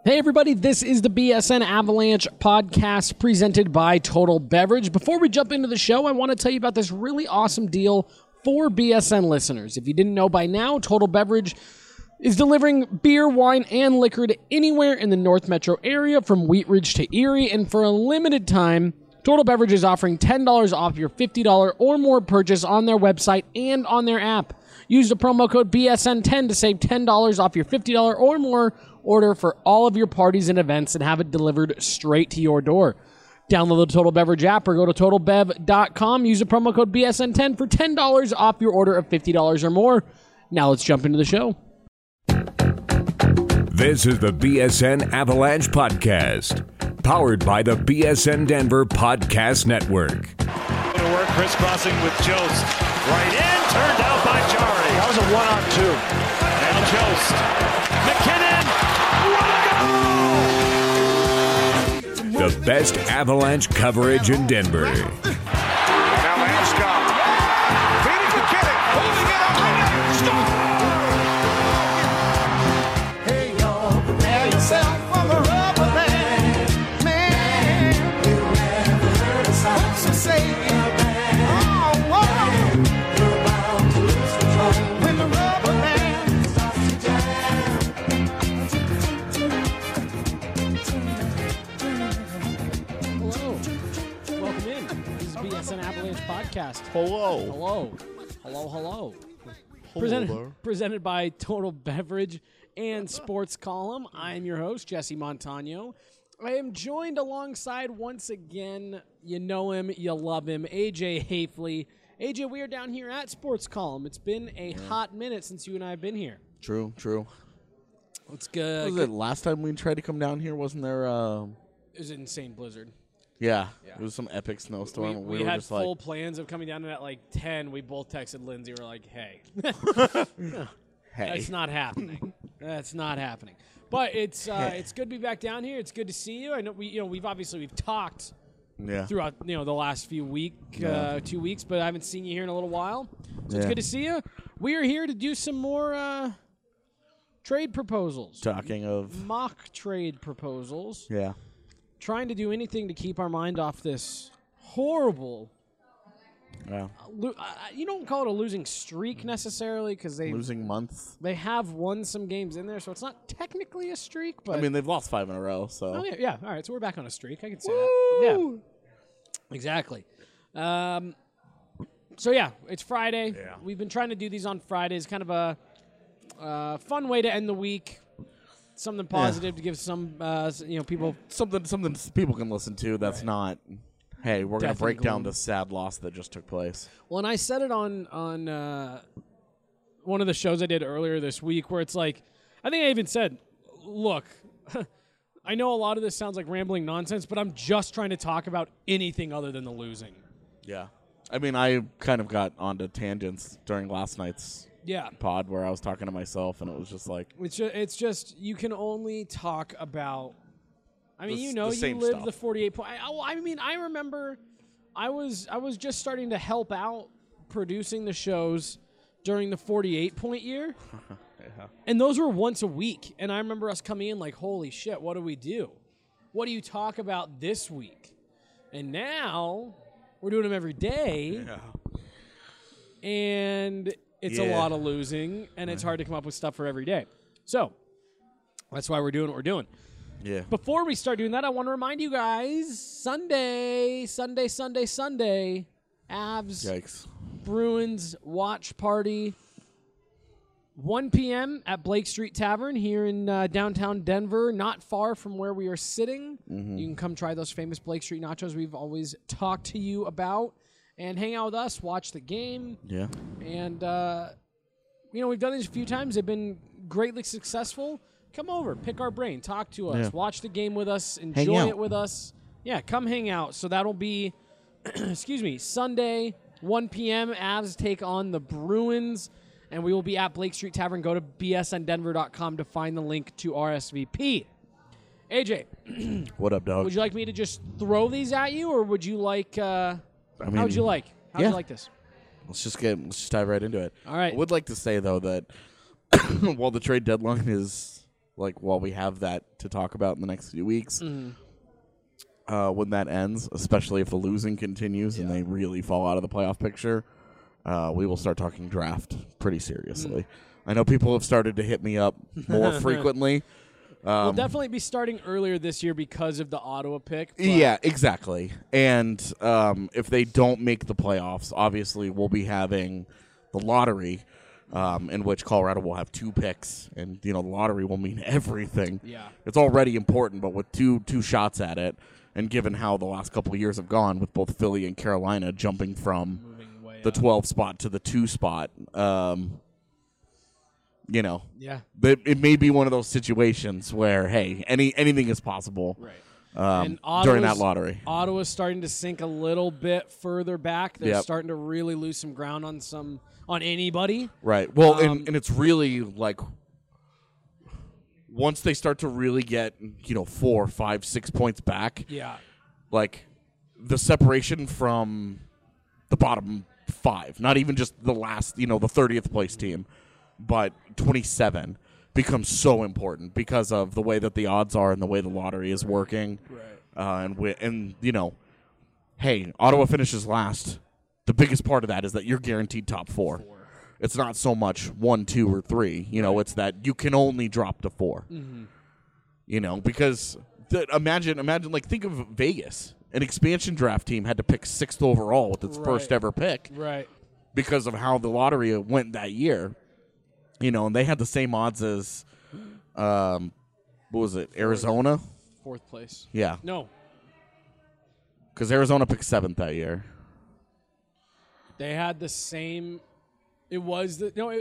Hey everybody, this is the BSN Avalanche podcast presented by Total Beverage. Before we jump into the show, I want to tell you about this really awesome deal for BSN listeners. If you didn't know by now, Total Beverage is delivering beer, wine, and liquor to anywhere in the North Metro area from Wheat Ridge to Erie, and for a limited time, Total Beverage is offering $10 off your $50 or more purchase on their website and on their app. Use the promo code BSN10 to save $10 off your $50 or more order for all of your parties and events and have it delivered straight to your door. Download the Total Beverage app or go to TotalBev.com. Use the promo code BSN10 for $10 off your order of $50 or more. Now let's jump into the show. This is the BSN Avalanche Podcast, powered by the BSN Denver Podcast Network. To work, crisscrossing with Jost. Right in, turned out by Jari. That was a 1-on-2. And Jost. McKinnon. The best Avalanche coverage in Denver. Now Landeskog. Feeding McKinnon. Holding it up. Stop. Hey, y'all. Prepare yourself for the rubber band. Man. You never heard a sound so say it. Oh, whoa. You're about to lose control when the rubber band starts to Hello. Welcome in. This is BSN Avalanche Podcast. Hello. Hello. Presented by Total Beverage and Sports Column. I am your host, Jesse Montano. I am joined alongside, once again, you know him, you love him, AJ Hafley. AJ, we are down here at Sports Column. It's been a hot minute since you and I have been here. True. It's good. Was it last time we tried to come down here? Wasn't there? It was an insane blizzard. Yeah. It was some epic snowstorm. We were had just full like, plans of coming down at like 10. We both texted Lindsay. We're like, hey. hey. That's not happening. But it's good to be back down here. It's good to see you. I know we've talked Yeah. throughout the last few 2 weeks, but I haven't seen you here in a little while. So it's good to see you. We are here to do some more trade proposals. Talking of. Mock trade proposals. Yeah. Trying to do anything to keep our mind off this horrible. Yeah. You don't call it a losing streak necessarily because Losing months. they have won some games in there, so it's not technically a streak. But I mean, they've lost 5 in a row, so. oh yeah. All right, so we're back on a streak. I can say that. Yeah, exactly. So yeah, it's Friday. Yeah. We've been trying to do these on Fridays, kind of a fun way to end the week. Something positive to give some people. Something people can listen to that's not, hey, we're going to break down the sad loss that just took place. Well, and I said it on one of the shows I did earlier this week where it's like, I think I even said, look, I know a lot of this sounds like rambling nonsense, but I'm just trying to talk about anything other than the losing. Yeah. I mean, I kind of got onto tangents during last night's pod where I was talking to myself, and it was just like... It's just you can only talk about... I mean, you live stuff. the 48 point. I mean, I remember I was just starting to help out producing the shows during the 48-point year. Yeah. And those were once a week. And I remember us coming in like, holy shit, what do we do? What do you talk about this week? And now we're doing them every day. Yeah. And it's a lot of losing, and it's hard to come up with stuff for every day. So that's why we're doing what we're doing. Yeah. Before we start doing that, I want to remind you guys, Sunday, Avs, Yikes. Bruins watch party, 1 p.m. at Blake Street Tavern here in downtown Denver, not far from where we are sitting. Mm-hmm. You can come try those famous Blake Street nachos we've always talked to you about and hang out with us, watch the game. Yeah. And, we've done these a few times. They've been greatly successful. Come over, pick our brain, talk to us, watch the game with us, enjoy it with us. Yeah, come hang out. So that'll be, Sunday, 1 p.m. Avs take on the Bruins, and we will be at Blake Street Tavern. Go to bsndenver.com to find the link to RSVP. AJ. What up, dog? Would you like me to just throw these at you, or would you like... how would you like? How would you like this? Let's just dive right into it. All right. I would like to say, though, that while the trade deadline is like while we have that to talk about in the next few weeks. When that ends, especially if the losing continues and they really fall out of the playoff picture, we will start talking draft pretty seriously. I know people have started to hit me up more frequently. We'll definitely be starting earlier this year because of the Ottawa pick. Yeah, exactly. And if they don't make the playoffs, obviously we'll be having the lottery, in which Colorado will have 2 picks, and the lottery will mean everything. Yeah, it's already important, but with two shots at it, and given how the last couple of years have gone, with both Philly and Carolina jumping from the 12 spot to the 2 spot. Yeah. It may be one of those situations where, hey, anything is possible. Right. During that lottery. Ottawa's starting to sink a little bit further back. They're Yep. starting to really lose some ground on anybody. Right. Well, and it's really like once they start to really get 4, 5, 6 points back. Yeah. Like the separation from the bottom 5, not even just the last, the 30th place team, but 27 becomes so important because of the way that the odds are and the way the lottery is working. Right. And hey, Ottawa finishes last. The biggest part of that is that you're guaranteed top 4. It's not so much 1, 2, or 3. It's that you can only drop to 4. Because imagine, like, think of Vegas. An expansion draft team had to pick 6th overall with its first ever pick. Right. Because of how the lottery went that year. And they had the same odds as, what was it, Arizona? 4th place. Yeah. No. Because Arizona picked 7th that year. They had the same. It was the no.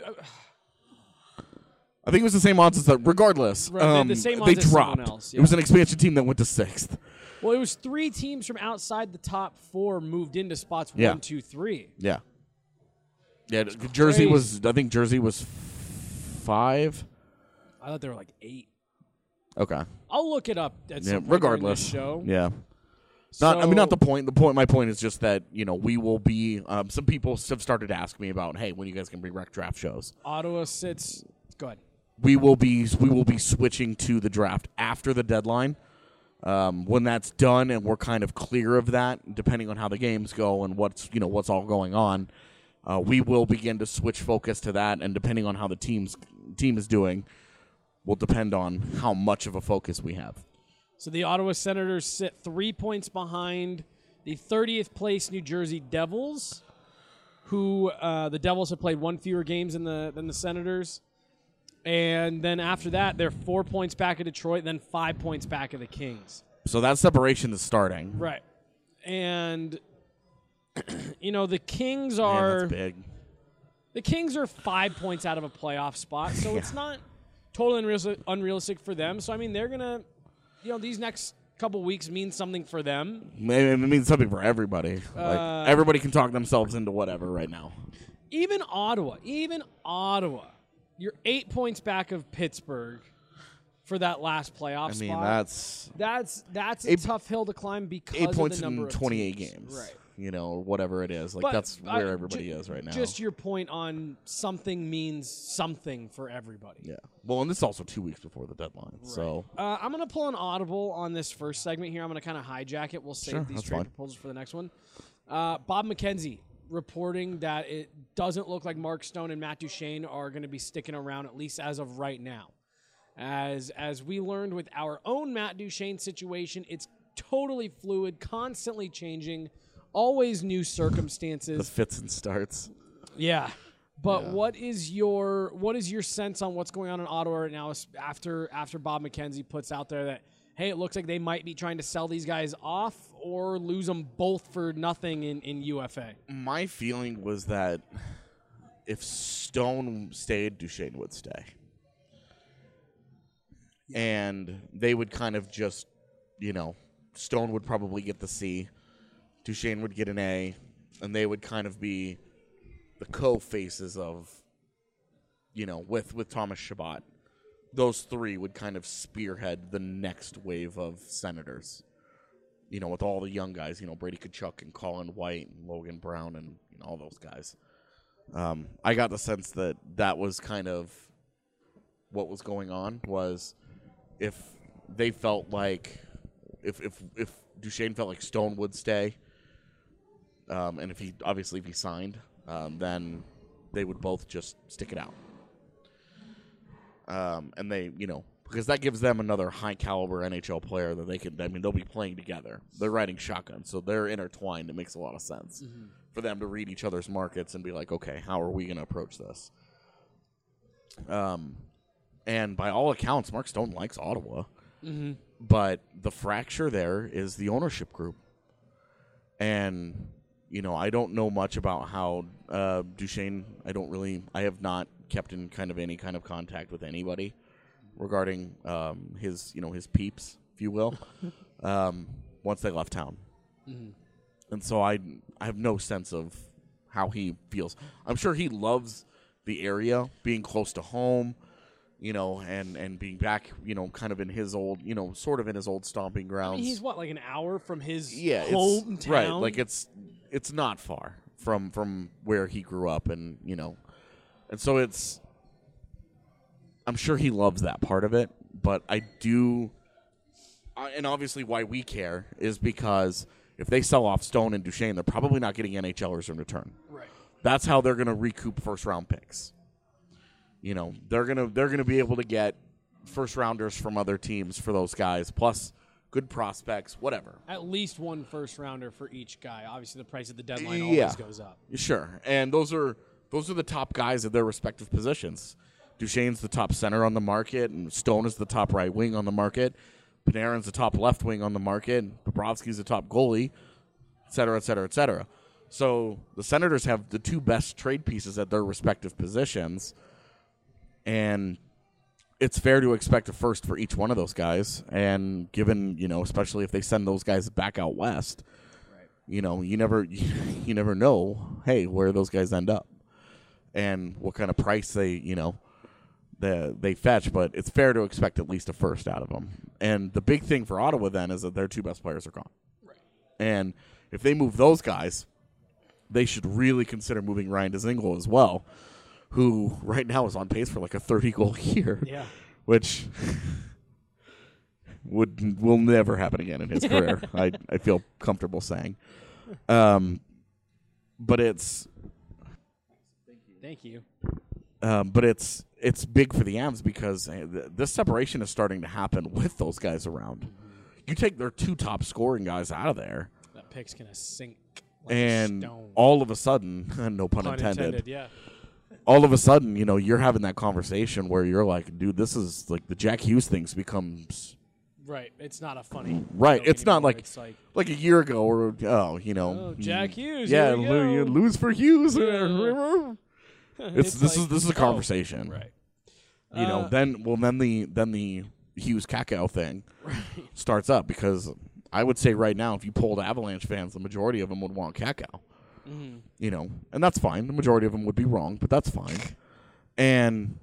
I think it was the same odds as that. Regardless, right, the same odds they as dropped. Someone else, yeah. It was an expansion team that went to 6th. Well, it was 3 teams from outside the top 4 moved into spots 1, 2, 3. Yeah. Yeah. Jersey was. I think Jersey was 5. I thought they were like 8. Okay. I'll look it up. At some point regardless. during this show. Yeah. Not the point. My point is just that we will be. Some people have started to ask me about, hey, when you guys can bring rec draft shows. Ottawa sits. Go ahead. We will be switching to the draft after the deadline. When that's done and we're kind of clear of that, depending on how the games go and what's all going on, we will begin to switch focus to that. And depending on how the team is doing, will depend on how much of a focus we have. So the Ottawa Senators sit 3 points behind the 30th place New Jersey Devils, who the Devils have played 1 fewer games than the Senators. And then after that, they're 4 points back of Detroit, then 5 points back of the Kings. So that separation is starting. Right. And, the Kings are... Man, that's big. The Kings are 5 points out of a playoff spot, so it's not totally unrealistic for them. So, I mean, they're going to... these next couple weeks mean something for them. It means something for everybody. Like everybody can talk themselves into whatever right now. Even Ottawa. You're 8 points back of Pittsburgh for that last playoff spot. That's a tough hill to climb because 8 points of the number in 28 of teams. games. Right. Whatever it is. Like that's where everybody is right now. Just your point on something means something for everybody. Yeah. Well, and this is also 2 weeks before the deadline. Right. So I'm going to pull an audible on this first segment here. I'm going to kind of hijack it. We'll save these trade proposals for the next one. Bob McKenzie reporting that it doesn't look like Mark Stone and Matt Duchene are going to be sticking around, at least as of right now. As we learned with our own Matt Duchene situation, it's totally fluid, constantly changing, always new circumstances. The fits and starts. Yeah. But what is your sense on what's going on in Ottawa right now after Bob McKenzie puts out there that, hey, it looks like they might be trying to sell these guys off or lose them both for nothing in UFA? My feeling was that if Stone stayed, Duchene would stay. And they would kind of just, Stone would probably get the C, Duchene would get an A, and they would kind of be the co-faces of, with Thomas Chabot. Those 3 would kind of spearhead the next wave of Senators. With all the young guys, Brady Tkachuk and Colin White and Logan Brown and all those guys. I got the sense that was kind of what was going on was if they felt like if Duchesne felt like Stone would stay, and if he signed, then they would both just stick it out. And they, because that gives them another high caliber NHL player that they can. I mean, they'll be playing together. They're riding shotgun, so they're intertwined. It makes a lot of sense for them to read each other's markets and be like, okay, how are we going to approach this? And by all accounts, Mark Stone likes Ottawa, but the fracture there is the ownership group. And, I don't know much about how Duchesne, I have not kept in kind of any kind of contact with anybody regarding his peeps, if you will, once they left town. And so I have no sense of how he feels. I'm sure he loves the area, being close to home, and being back, kind of in his old, sort of in his old stomping grounds. I mean, he's like an hour from his hometown? Right, like it's not far from where he grew up, and and so I'm sure he loves that part of it, but and obviously why we care is because if they sell off Stone and Duchesne, they're probably not getting NHLers in return. Right. That's how they're going to recoup first-round picks. They're gonna be able to get first-rounders from other teams for those guys, plus good prospects, whatever. At least one first-rounder for each guy. Obviously, the price of the deadline always goes up. Sure, and those are the top guys at their respective positions. Duchesne's the top center on the market, and Stone is the top right wing on the market. Panarin's the top left wing on the market. Bobrovsky's the top goalie, et cetera, et cetera, et cetera. So the Senators have the two best trade pieces at their respective positions, and it's fair to expect a first for each one of those guys. And given, especially if they send those guys back out west, you never know, hey, where those guys end up and what kind of price they fetch. But it's fair to expect at least a first out of them. And the big thing for Ottawa then is that their two best players are gone. Right. And if they move those guys, they should really consider moving Ryan Dzingel as well, who right now is on pace for like a 30-goal year, which will never happen again in his career. I feel comfortable saying, but it's thank you. But it's big for the Avs because this separation is starting to happen with those guys around. You take their two top scoring guys out of there, that pick's gonna sink. Like and stone. All of a sudden, no pun intended. Yeah. All of a sudden, you're having that conversation where you're like, dude, this is like the Jack Hughes things becomes right. It's not a funny right. joke It's not anymore. like It's like a year ago or Jack Hughes. Yeah, here we you go. lose for Hughes. Yeah. This is a conversation, right? Then the Hughes Kakao thing starts up because I would say right now, if you polled Avalanche fans, the majority of them would want Kakao. And that's fine. The majority of them would be wrong, but that's fine. And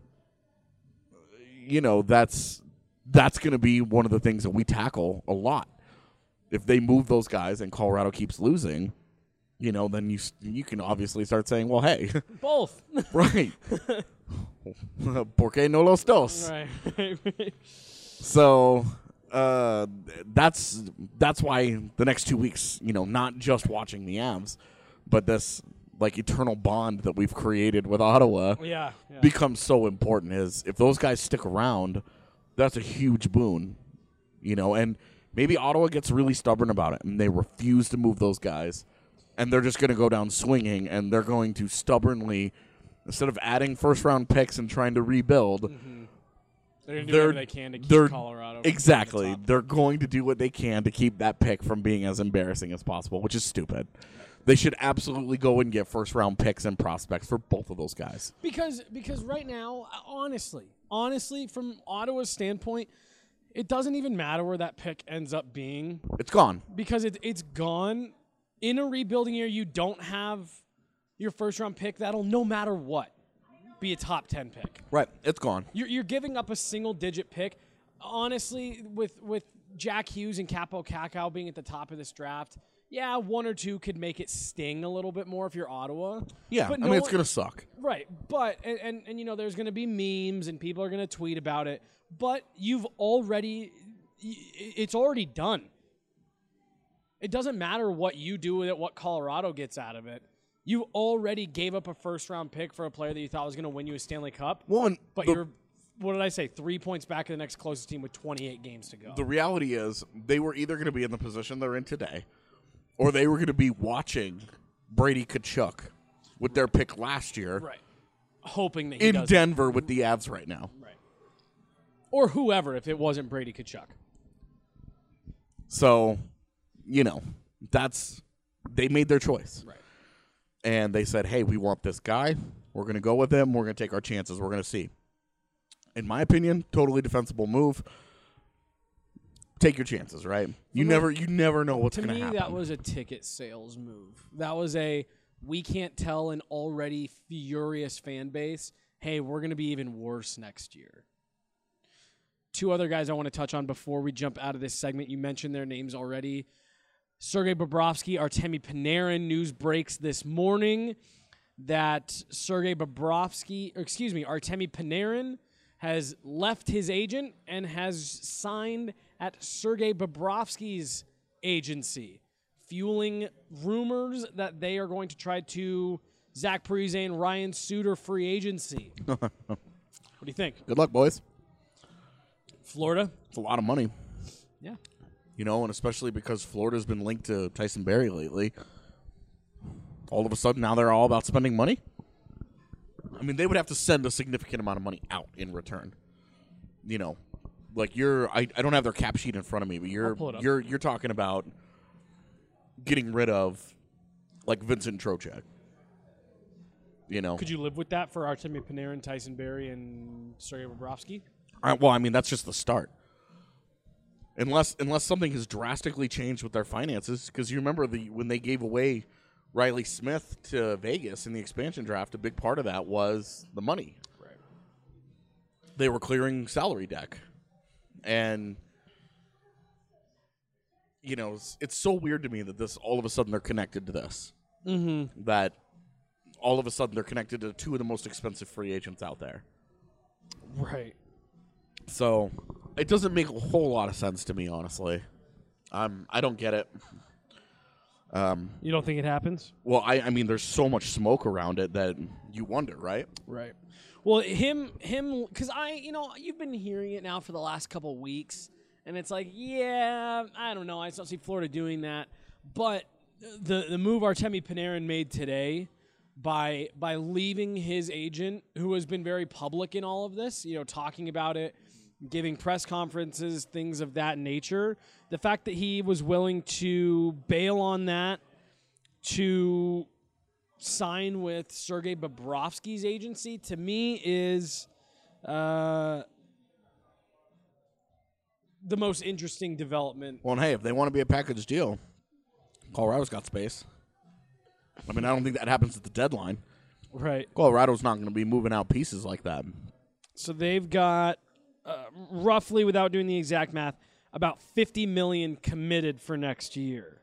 that's going to be one of the things that we tackle a lot. If they move those guys and Colorado keeps losing, then you can obviously start saying, well, hey, both right. Porque no los dos. Right. So that's why the next 2 weeks, not just watching the Avs, but this like eternal bond that we've created with Ottawa becomes so important. Is if those guys stick around, that's a huge boon, and maybe Ottawa gets really stubborn about it and they refuse to move those guys and they're just going to go down swinging and they're going to stubbornly, instead of adding first-round picks and trying to rebuild, they're going to do whatever they can to keep Colorado. Exactly. They're going to do what they can to keep that pick from being as embarrassing as possible, which is stupid. They should absolutely go and get first-round picks and prospects for both of those guys. Because right now, honestly, from Ottawa's standpoint, it doesn't even matter where that pick ends up being. It's gone. Because it's gone. In a rebuilding year, you don't have your first-round pick that'll, no matter what, be a top 10 pick. Right. It's gone. You're giving up a single-digit pick. Honestly, with Jack Hughes and Capo Kakao being at the top of this draft, yeah, one or two could make it sting a little bit more if you're Ottawa. Yeah, but it's going to suck. Right, but, and there's going to be memes and people are going to tweet about it. but it's already done. It doesn't matter what you do with it, what Colorado gets out of it. You already gave up a first-round pick for a player that you thought was going to win you a Stanley Cup. But you're, what did I say, 3 points back of the next closest team with 28 games to go. The reality is they were either going to be in the position they're in today, or they were going to be watching Brady Tkachuk with their pick last year. Right. Hoping that he in does Denver with the Avs right now. Right. Or whoever if it wasn't Brady Tkachuk. So, they made their choice. Right. And they said, hey, we want this guy. We're going to go with him. We're going to take our chances. We're going to see. In my opinion, totally defensible move. Take your chances, right? You never know what's going to happen. To me, that was a ticket sales move. That was we can't tell an already furious fan base, hey, we're going to be even worse next year. Two other guys I want to touch on before we jump out of this segment. You mentioned their names already. Sergei Bobrovsky, Artemi Panarin. News breaks this morning that Artemi Panarin has left his agent and has signed at Sergei Bobrovsky's agency, fueling rumors that they are going to try to Zach Parise and Ryan Suter free agency. What do you think? Good luck, boys. Florida? It's a lot of money. Yeah. And especially because Florida's been linked to Tyson Barrie lately. All of a sudden, now they're all about spending money? I mean, they would have to send a significant amount of money out in return. I don't have their cap sheet in front of me, but you're talking about getting rid of, Vincent Trocheck. Could you live with that for Artemi Panarin, Tyson Barrie, and Sergei Bobrovsky? That's just the start. Unless something has drastically changed with their finances, because you remember when they gave away Riley Smith to Vegas in the expansion draft, a big part of that was the money. Right. They were clearing salary deck. And, it's so weird to me that all of a sudden they're connected to this. Mm-hmm. That all of a sudden they're connected to two of the most expensive free agents out there. Right. So it doesn't make a whole lot of sense to me, honestly. I don't get it. You don't think it happens? Well, I mean, there's so much smoke around it that you wonder, right? Right. Well, him, because you've been hearing it now for the last couple weeks, and it's like, yeah, I don't know. I just don't see Florida doing that. But the move Artemi Panarin made today by leaving his agent, who has been very public in all of this, talking about it, giving press conferences, things of that nature. The fact that he was willing to bail on that to sign with Sergei Bobrovsky's agency, to me, is the most interesting development. Well, and hey, if they want to be a package deal, Colorado's got space. I mean, I don't think that happens at the deadline. Right. Colorado's not going to be moving out pieces like that. So they've got roughly, without doing the exact math, about $50 million committed for next year.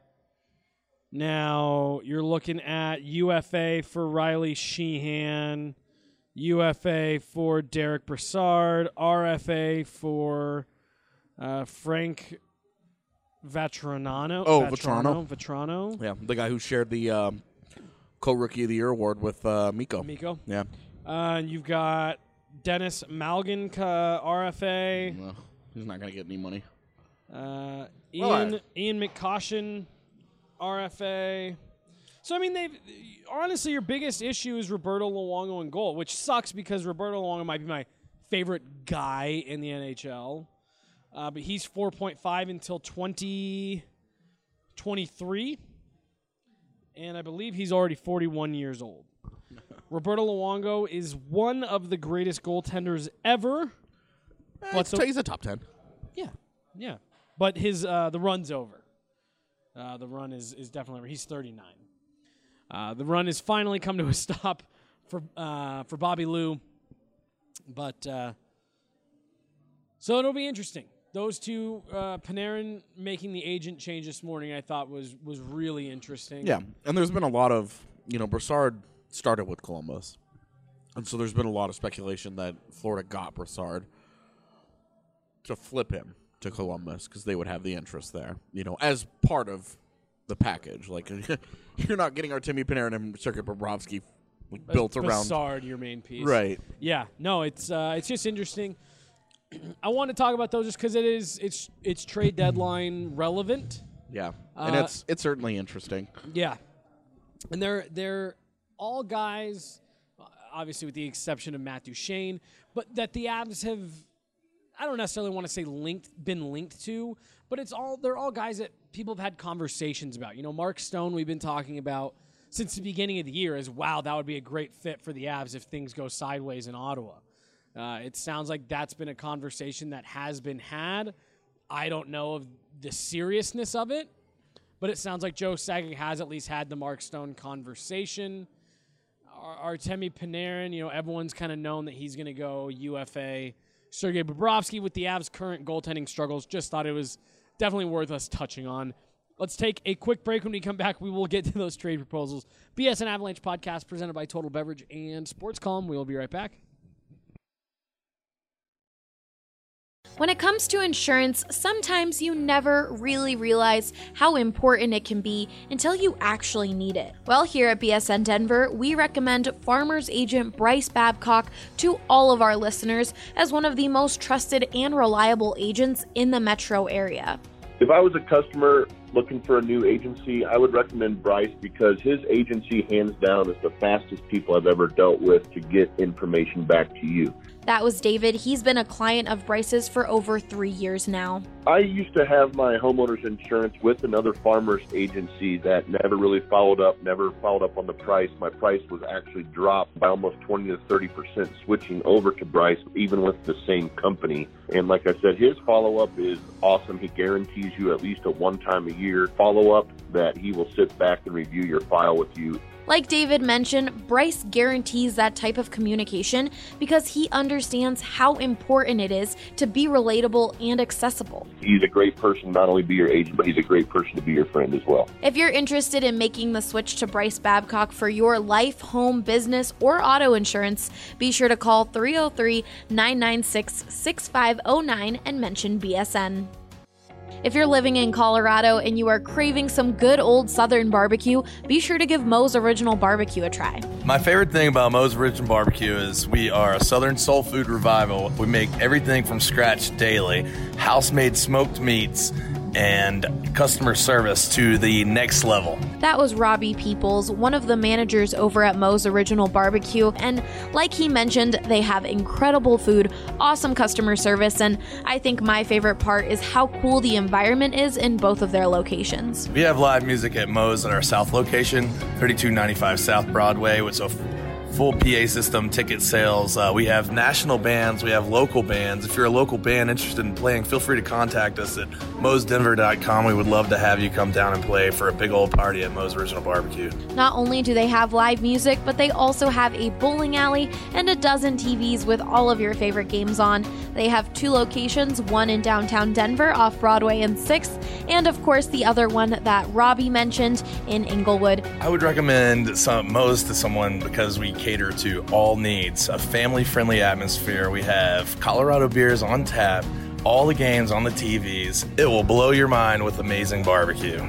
Now you're looking at UFA for Riley Sheehan, UFA for Derek Brassard, RFA for Frank Vatrano. Vatrano. Yeah, the guy who shared the co-rookie of the year award with Mikko. Mikko. Yeah. And you've got Dennis Malgin, RFA. Well, he's not going to get any money. Ian McCoshen, RFA. So, I mean, honestly, your biggest issue is Roberto Luongo in goal, which sucks because Roberto Luongo might be my favorite guy in the NHL. But he's 4.5 until 2023. And I believe he's already 41 years old. Roberto Luongo is one of the greatest goaltenders ever. He's a top 10. Yeah. But his the run's over. The run is definitely over. He's 39. The run has finally come to a stop for Bobby Lou. But so it'll be interesting. Those two, Panarin making the agent change this morning, I thought was really interesting. Yeah, and there's been a lot of, Brassard started with Columbus. And so there's been a lot of speculation that Florida got Brassard. flip him to Columbus because they would have the interest there, as part of the package. Like, you're not getting Artemi Panarin and Sergei Bobrovsky built around Brassard, your main piece. Right. Yeah. No, it's just interesting. I want to talk about those just because it's trade deadline relevant. Yeah, and it's certainly interesting. Yeah, and they're all guys, obviously with the exception of Matt Duchene, but that the Avs have, I don't necessarily want to say been linked to, but they're all guys that people have had conversations about. Mark Stone, we've been talking about since the beginning of the year as, wow, that would be a great fit for the Avs if things go sideways in Ottawa. It sounds like that's been a conversation that has been had. I don't know of the seriousness of it, but it sounds like Joe Sakic has at least had the Mark Stone conversation. Artemi Panarin, everyone's kind of known that he's going to go UFA. Sergei Bobrovsky, with the Avs' current goaltending struggles, just thought it was definitely worth us touching on. Let's take a quick break. When we come back, we will get to those trade proposals. BSN Avalanche podcast presented by Total Beverage and Sports Column. We will be right back. When it comes to insurance, sometimes you never really realize how important it can be until you actually need it. Well, here at BSN Denver, we recommend Farmers Agent Bryce Babcock to all of our listeners as one of the most trusted and reliable agents in the metro area. If I was a customer looking for a new agency, I would recommend Bryce because his agency, hands down, is the fastest people I've ever dealt with to get information back to you. That was David. He's been a client of Bryce's for over 3 years now. I used to have my homeowner's insurance with another farmer's agency that never really followed up on the price. My price was actually dropped by almost 20 to 30% switching over to Bryce, even with the same company. And like I said, his follow-up is awesome. He guarantees you at least a one-time-a-year follow-up that he will sit back and review your file with you. Like David mentioned, Bryce guarantees that type of communication because he understands how important it is to be relatable and accessible. He's a great person, not only be your agent, but he's a great person to be your friend as well. If you're interested in making the switch to Bryce Babcock for your life, home, business, or auto insurance, be sure to call 303-996-6509 and mention BSN. If you're living in Colorado and you are craving some good old Southern barbecue, be sure to give Moe's Original Barbecue a try. My favorite thing about Moe's Original Barbecue is we are a Southern soul food revival. We make everything from scratch daily, house-made smoked meats, and customer service to the next level. That was Robbie Peoples, one of the managers over at Moe's Original Barbecue, and like he mentioned, they have incredible food, awesome customer service, and I think my favorite part is how cool the environment is in both of their locations. We have live music at Moe's at our South location, 3295 South Broadway, with a full PA system, ticket sales. We have national bands. We have local bands. If you're a local band interested in playing, feel free to contact us at moesdenver.com. We would love to have you come down and play for a big old party at Moe's Original Barbecue. Not only do they have live music, but they also have a bowling alley and a dozen TVs with all of your favorite games on. They have 2 locations, one in downtown Denver off Broadway and 6th, and of course the other one that Robbie mentioned in Inglewood. I would recommend Moe's to someone because we cater to all needs, a family-friendly atmosphere. We have Colorado beers on tap, all the games on the TVs. It will blow your mind with amazing barbecue.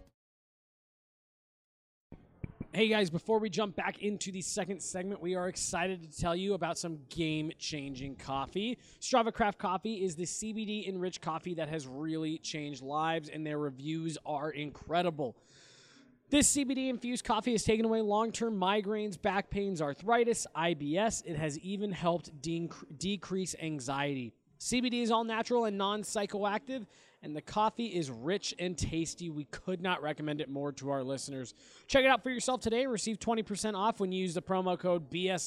Hey guys, before we jump back into the second segment, we are excited to tell you about some game-changing coffee. Strava Craft Coffee is the CBD-enriched coffee that has really changed lives, and their reviews are incredible. This CBD-infused coffee has taken away long-term migraines, back pains, arthritis, IBS. It has even helped decrease anxiety. CBD is all natural and non-psychoactive, and the coffee is rich and tasty. We could not recommend it more to our listeners. Check it out for yourself today. Receive 20% off when you use the promo code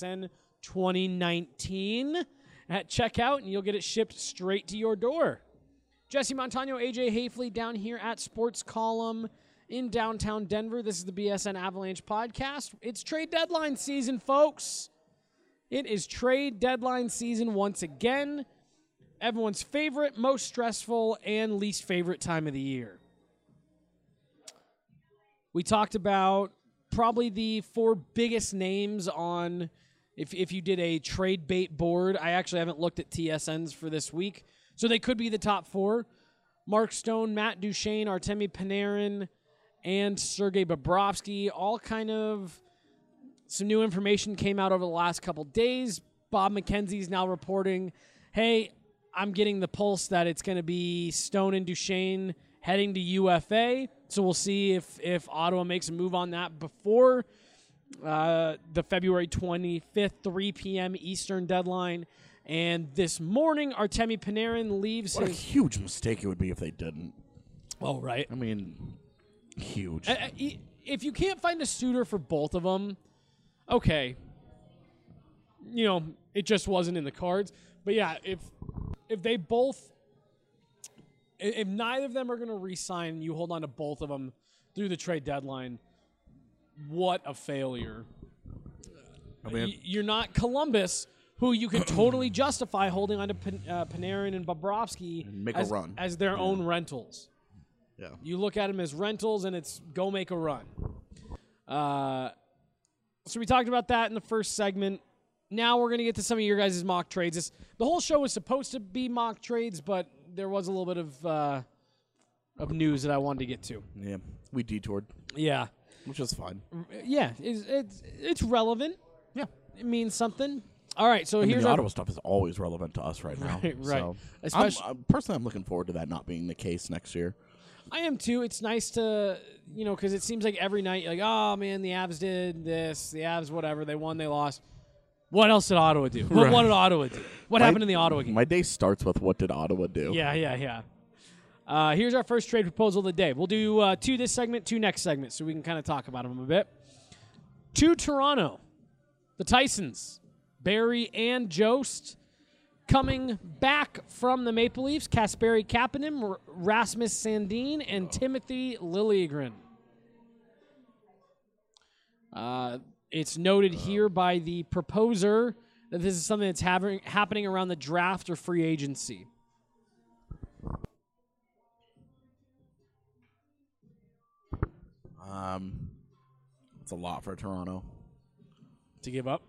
BSN2019 at checkout, and you'll get it shipped straight to your door. Jesse Montano, AJ Hafley down here at Sports Column in downtown Denver. This is the BSN Avalanche podcast. It's trade deadline season, folks. It is trade deadline season once again. Everyone's favorite, most stressful, and least favorite time of the year. We talked about probably the 4 biggest names on, if you did a trade bait board. I actually haven't looked at TSNs for this week, So they could be the top 4. Mark Stone, Matt Duchene, Artemi Panarin, and Sergei Bobrovsky. All kind of some new information came out over the last couple days. Bob McKenzie is now reporting, hey, I'm getting the pulse that it's going to be Stone and Duchene heading to UFA. So we'll see if Ottawa makes a move on that before the February 25th, 3 p.m. Eastern deadline. And this morning, Artemi Panarin leaves What a huge mistake it would be if they didn't. Oh, right. I mean, huge. If you can't find a suitor for both of them, okay. You know, it just wasn't in the cards. But yeah, if they both, if neither of them are going to re-sign, you hold on to both of them through the trade deadline, what a failure. I mean, You're not Columbus, who you can totally justify holding on to Panarin and Bobrovsky make a run. as their own rentals. Yeah. You look at them as rentals, and it's go make a run. So we talked about that in the first segment. Now we're going to get to some of your guys' mock trades. The whole show was supposed to be mock trades, but there was a little bit of news that I wanted to get to. Yeah, we detoured, Yeah. which is fine. Yeah, it's relevant. Yeah. It means something. All right, so I mean, here's the our Ottawa stuff is always relevant to us right now. Right. So Especially- personally, I'm looking forward to that not being the case next year. I am too. It's nice to, because it seems like every night, you're like, oh man, the Avs did this, the Avs whatever, they won, they lost. What else did Ottawa do? Right. What did Ottawa do? What happened in the Ottawa game? My day starts with what did Ottawa do? Yeah. Here's our first trade proposal of the day. We'll do 2 this segment, 2 next segment, so we can kind of talk about them a bit. To Toronto, the Tysons, Barry and Jost, coming back from the Maple Leafs, Kasperi Kapanen, Rasmus Sandin, and Timothy Liljegren. It's noted here by the proposer that this is something that's happening around the draft or free agency. It's a lot for Toronto. To give up?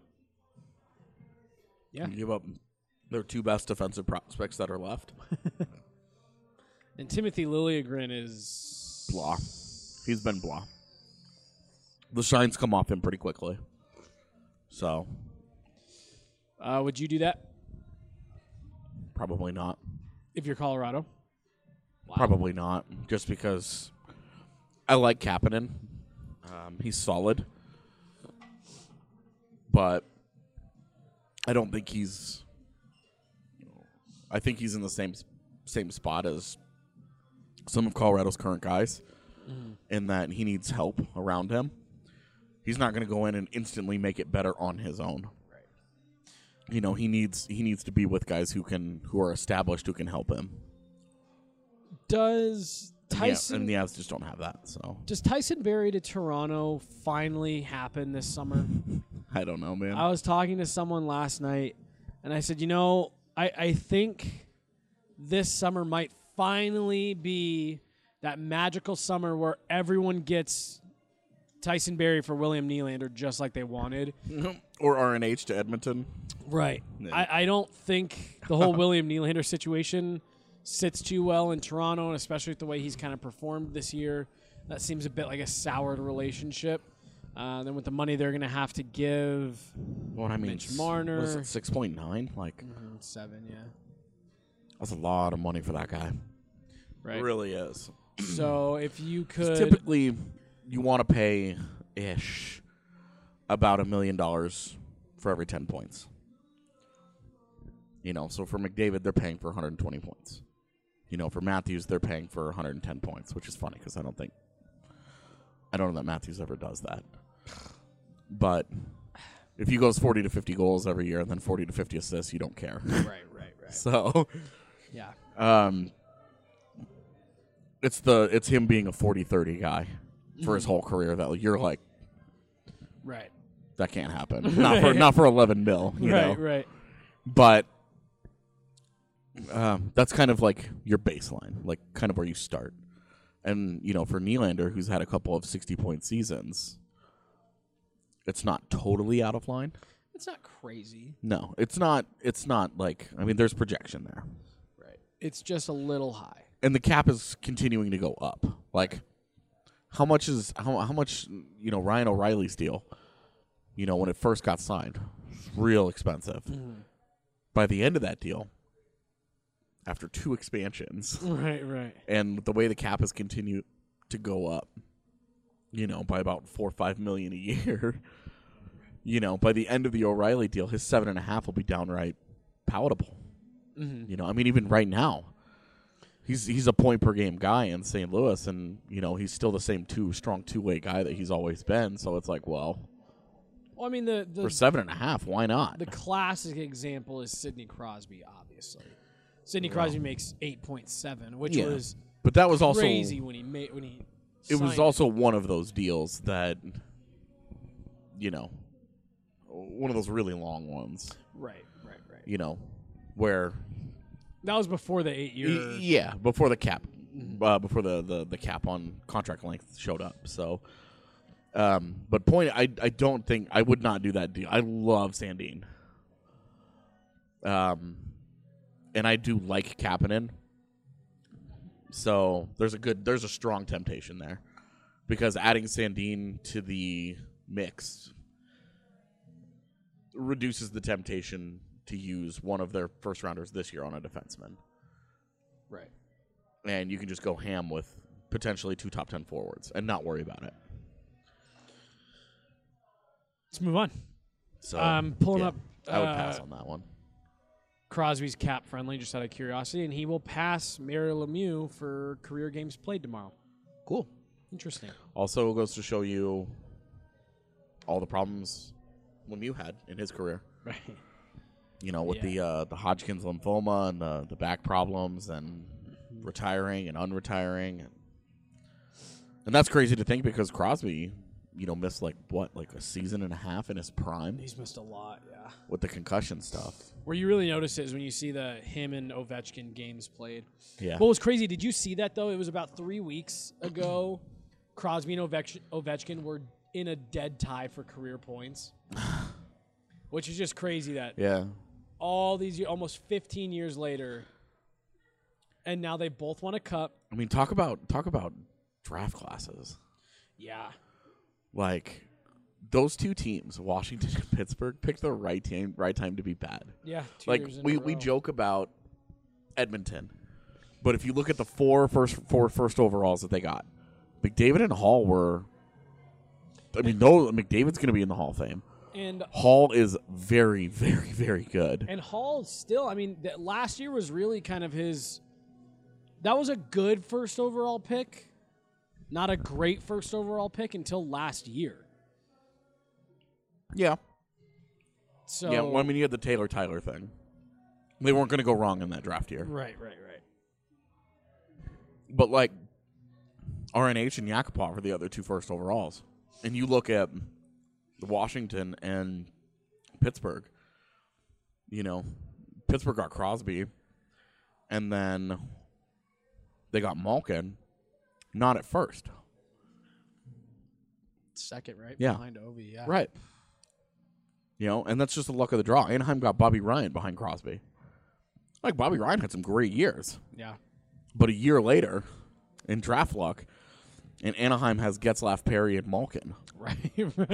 Yeah. Give up their 2 best defensive prospects that are left. And Timothy Liljegren is... Blah. He's been blah. The shine's come off him pretty quickly. So. Would you do that Probably not. if you're Colorado? Probably not. Just because I like Kapanen. He's solid. But I don't think he's... I think he's in the same spot as some of Colorado's current guys in that he needs help around him. He's not going to go in and instantly make it better on his own. Right. He needs to be with guys who are established, who can help him. Does Tyson... and the Avs just don't have that. So Does Tyson Barrie to Toronto finally happen this summer? I don't know, man. I was talking to someone last night, and I said, I think this summer might finally be that magical summer where everyone gets Tyson Barrie for William Nylander just like they wanted. Or RNH to Edmonton. Right. Yeah. I don't think the whole William Nylander situation sits too well in Toronto, and especially with the way he's kind of performed this year. That seems a bit like a soured relationship. Then with the money they're going to have to give Mitch Marner. Was it 6.9? Like 7, yeah. That's a lot of money for that guy. Right. It really is. So if you could... Typically, you want to pay ish about $1 million for every 10 points. So for McDavid, they're paying for 120 points. For Matthews, they're paying for 110 points, which is funny because I don't know that Matthews ever does that. But if he goes 40 to 50 goals every year and then 40 to 50 assists, you don't care. Right. So, yeah. It's him being a 40-30 guy for his whole career that you're like, Right. that can't happen. Not for 11 mil, you know. Right. But that's kind of like your baseline, like kind of where you start. And, for Nylander, who's had a couple of 60-point seasons, it's not totally out of line. It's not crazy. No, it's not like, there's projection there. Right. It's just a little high. And the cap is continuing to go up. Like, how much Ryan O'Reilly's deal, when it first got signed, was real expensive. Mm. By the end of that deal, after 2 expansions, right, and the way the cap has continued to go up, by about $4 or $5 million a year, by the end of the O'Reilly deal, his 7.5 will be downright palatable. Mm-hmm. Even right now, he's a point per game guy in St. Louis, and he's still the same strong two-way guy that he's always been. So it's like, well, I mean, for 7.5, why not? The classic example is Sidney Crosby. Obviously, Sidney Crosby makes 8.7, which was but that was also crazy when he. It was also one of those deals that, one of those really long ones. Right. Where that was before the 8-year. Yeah, before the cap, before the cap on contract length showed up. So, but I don't think I would not do that deal. I love Sandin, and I do like Kapanen. So there's a strong temptation there, because adding Sandin to the mix reduces the temptation to use one of their first rounders this year on a defenseman. Right. And you can just go ham with potentially 2 top 10 forwards and not worry about it. Let's move on. So pulling up. I would pass on that one. Crosby's cap friendly, just out of curiosity, and he will pass Mario Lemieux for career games played tomorrow. Cool. Interesting. Also goes to show you all the problems Lemieux had in his career. Right. With the Hodgkin's lymphoma and the back problems and retiring and unretiring. And that's crazy to think, because Crosby, missed a season and a half in his prime. He's missed a lot, yeah. With the concussion stuff. Where you really notice it is when you see him and Ovechkin games played. Yeah. What was crazy, did you see that, though? It was about 3 weeks ago. Crosby and Ovechkin were in a dead tie for career points. Which is just crazy that all these years, almost 15 years later, and now they both won a cup. I mean, talk about draft classes. Yeah. Like, those 2 teams, Washington and Pittsburgh, picked the right time to be bad. Yeah, 2 like years in a row. we joke about Edmonton, but if you look at the four first overalls that they got, McDavid and Hall were. I mean, McDavid's going to be in the Hall of Fame. And Hall is very, very, very good. And Hall still, last year was really kind of his. That was a good first overall pick, not a great first overall pick until last year. Yeah. So yeah, well, you had the Taylor Tyler thing. They weren't going to go wrong in that draft year. Right. But RNH and Yakupov are the other 2 first overalls, and you look at Washington and Pittsburgh. Pittsburgh got Crosby, and then they got Malkin, not at first. Second, right? Yeah. Behind Ovi, yeah. Right. And that's just the luck of the draw. Anaheim got Bobby Ryan behind Crosby. Bobby Ryan had some great years. Yeah. But a year later, in draft luck, and Anaheim has Getzlaf, Perry, and Malkin. Right.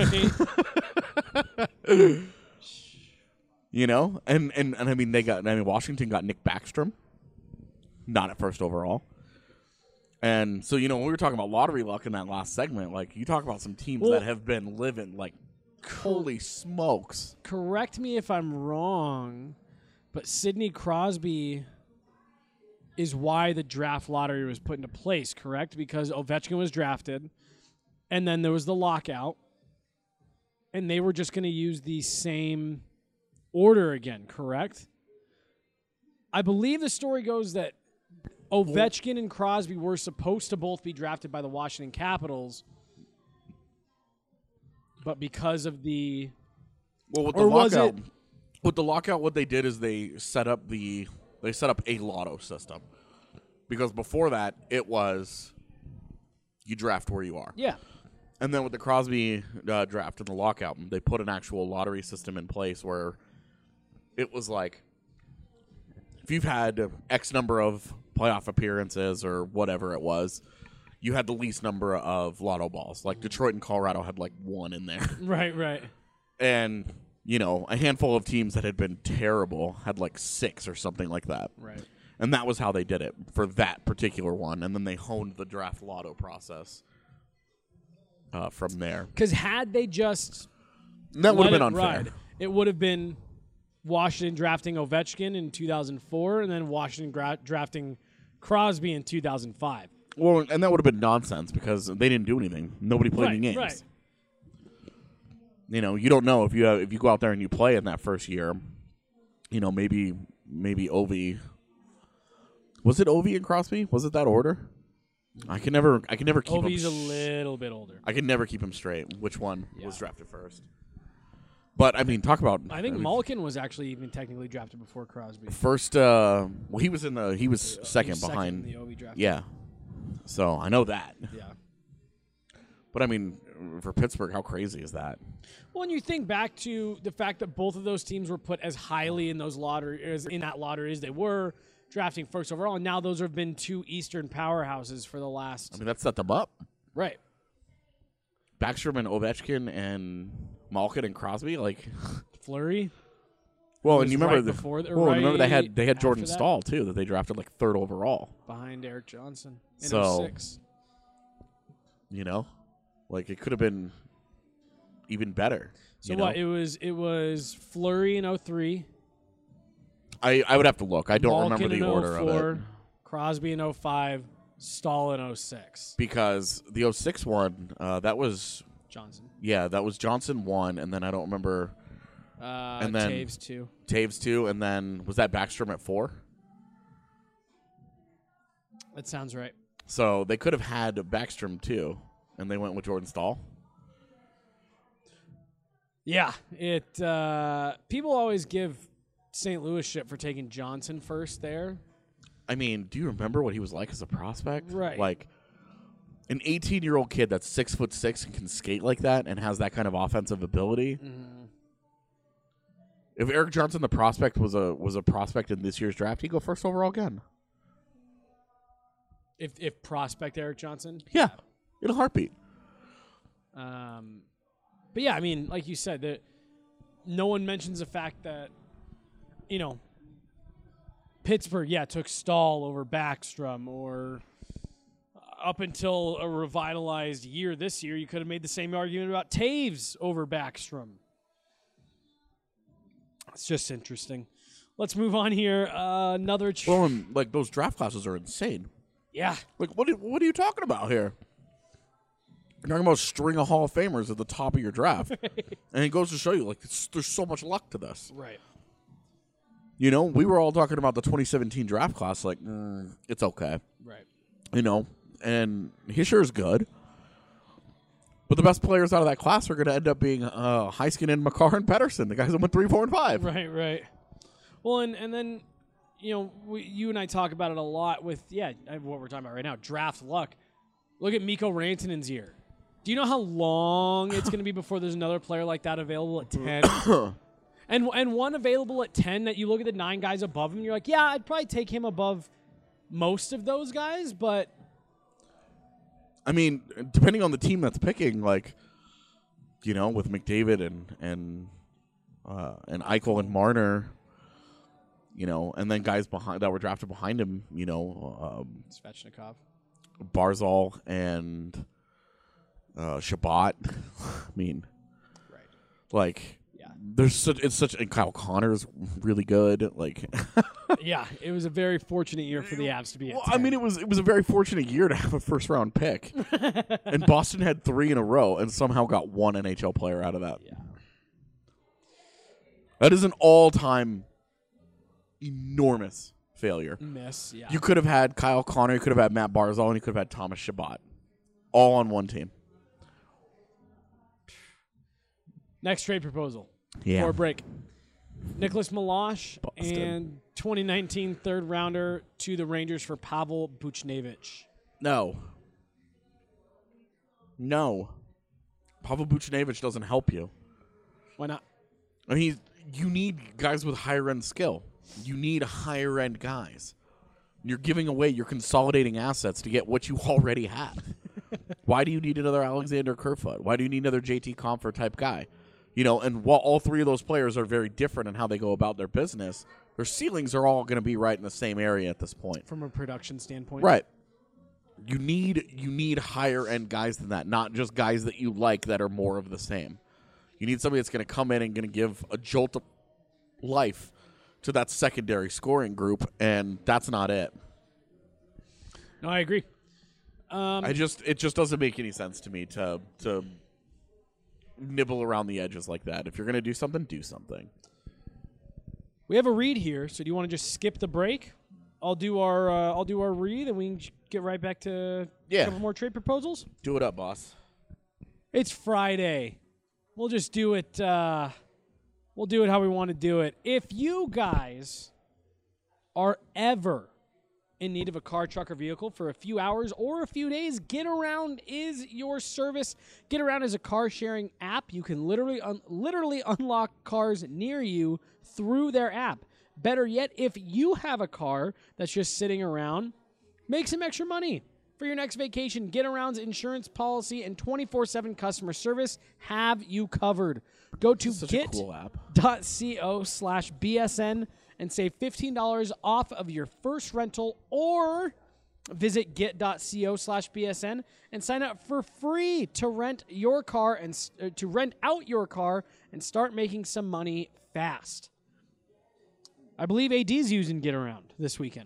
And Washington got Nick Backstrom, not at first overall. And so, when we were talking about lottery luck in that last segment, you talk about some teams that have been living holy smokes. Correct me if I'm wrong, but Sidney Crosby is why the draft lottery was put into place, correct? Because Ovechkin was drafted, and then there was the lockout, and they were just going to use the same order again, correct? I believe the story goes that Ovechkin and Crosby were supposed to both be drafted by the Washington Capitals, but because of the... Well, with the lockout, what they did is they set up a lotto system, because before that it was you draft where you are. Yeah. And then with the Crosby draft and the lockout, they put an actual lottery system in place where it was if you've had X number of playoff appearances or whatever it was, you had the least number of lotto balls. Like Detroit and Colorado had like 1 in there. Right. And, a handful of teams that had been terrible had like 6 or something like that. Right. And that was how they did it for that particular one. And then they honed the draft lotto process from there. Because had they just That would have let been it unfair. ride, it would have been Washington drafting Ovechkin in 2004 and then Washington drafting Crosby in 2005. Well, and that would have been nonsense because they didn't do anything. Nobody played any games. Right. You don't know if you go out there and you play in that first year. Maybe Ovi. Was it Ovi and Crosby? Was it that order? I can never keep Ovi's him. a little bit older. I can never keep him straight. Which one was drafted first? But I mean, talk about. I think Malkin was actually even technically drafted before Crosby. First. He was second behind in the Ovi draft. Yeah. So I know that. Yeah. But I mean, for Pittsburgh, how crazy is that? Well, and you think back to the fact that both of those teams were put as highly in that lottery as they were, drafting first overall, and now those have been 2 Eastern powerhouses for the last. I mean, that set them up. Right. Backstrom and Ovechkin and Malkin and Crosby, like Fleury. Well, was and you remember right before remember they had after Jordan that? Stahl too that they drafted like 3rd overall. Behind Eric Johnson in So 06. Like it could have been even better. So what? It was Fleury in 03. I would have to look. I don't Malkin remember the in order 04, of it. Crosby in 05, Stahl in 06. Because the 06 one, that was Johnson. Yeah, that was Johnson 1, and then I don't remember. And then Taves 2. Taves 2, and then was that Backstrom at 4? That sounds right. So they could have had Backstrom 2, and they went with Jordan Stahl. Yeah, people always give St. Louis shit for taking Johnson first there. I mean, do you remember what he was like as a prospect? Right. Like an 18-year-old kid that's 6'6" and can skate like that and has that kind of offensive ability. Mm-hmm. If Eric Johnson, the prospect, was a prospect in this year's draft, he'd go 1st overall again. If prospect Eric Johnson? Yeah, in a heartbeat. But yeah, I mean, like you said, that no one mentions the fact that, Pittsburgh, took Stahl over Backstrom, or up until a revitalized year this year, you could have made the same argument about Taves over Backstrom. It's just interesting. Let's move on here. Another. Well, and, like those draft classes are insane. Yeah. Like what are you talking about here? You're talking about a string of Hall of Famers at the top of your draft, and it goes to show you like there's so much luck to this. Right. We were all talking about the 2017 draft class, like it's okay. Right. And he sure is good. But the best players out of that class are going to end up being Heiskanen, Makar, and Pettersson, the guys that went 3, 4, and 5. Right. Well, and then, you and I talk about it a lot with, what we're talking about right now, draft luck. Look at Mikko Rantanen's year. Do you know how long it's going to be before there's another player like that available at 10? and one available at 10 that you look at the 9 guys above him, and you're like, yeah, I'd probably take him above most of those guys, but... I mean, depending on the team that's picking, like, with McDavid and Eichel and Marner, and then guys behind that were drafted behind him, Svechnikov, Barzal and Shabbat. I mean, right? Like, yeah, and Kyle Connor's really good. Like, yeah, it was a very fortunate year for the Avs to be. Well, I mean, it was a very fortunate year to have a 1st-round pick, and Boston had 3 in a row and somehow got 1 NHL player out of that. Yeah, that is an all-time enormous failure. Miss. Yeah, You could have had Kyle Connor, you could have had Matt Barzal, and you could have had Thomas Shabbat, all on one team. Next trade proposal. Yeah. For break. Nicholas Milosh Boston. and 2019 third rounder to the Rangers for Pavel Buchnevich. No. Pavel Buchnevich doesn't help you. Why not? I mean, you need guys with higher end skill. You need higher end guys. You're giving away, you're consolidating assets to get what you already have. Why do you need another Alexander Kerfoot? Why do you need another JT Compher type guy? You know, and while all three of those players are very different in how they go about their business, their ceilings are all going to be right in the same area at this point. From a production standpoint. Right. You need higher end guys than that, not just guys that you like that are more of the same. You need somebody that's going to come in and going to give a jolt of life to that secondary scoring group, and that's not it. No, I agree. It just doesn't make any sense to me to nibble around the edges like that. If you're going to do something, do something. We have a read here, so do you want to just skip the break? I'll do our read, and we can get right back to a couple more trade proposals. Do it up, boss. It's Friday. We'll just do it. We'll do it how we want to do it. If you guys are ever in need of a car, truck, or vehicle for a few hours or a few days, Get Around is your service. Get Around is a car-sharing app. You can literally unlock cars near you through their app. Better yet, if you have a car that's just sitting around, make some extra money. For your next vacation, Get Around's insurance policy and 24/7 customer service have you covered. Go to get.co/BSN and save $15 off of your first rental, or visit get.co/BSN and sign up for free to rent your car and to rent out your car and start making some money fast. I believe AD's using Get Around this weekend.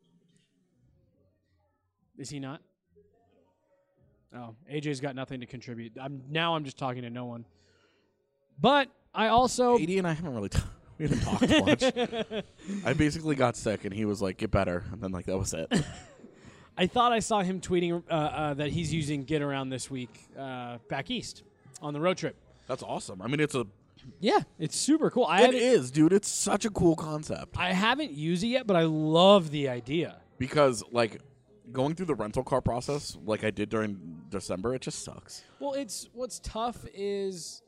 Is he not? Oh, AJ's got nothing to contribute. I'm just talking to no one. But I also... AD and I haven't really we haven't talked much. I basically got sick, and he was like, get better. And then, that was it. I thought I saw him tweeting that he's using Get Around this week back east on the road trip. That's awesome. I mean, it's super cool. It is, dude. It's such a cool concept. I haven't used it yet, but I love the idea. Because, going through the rental car process like I did during December, it just sucks. Well, what's tough is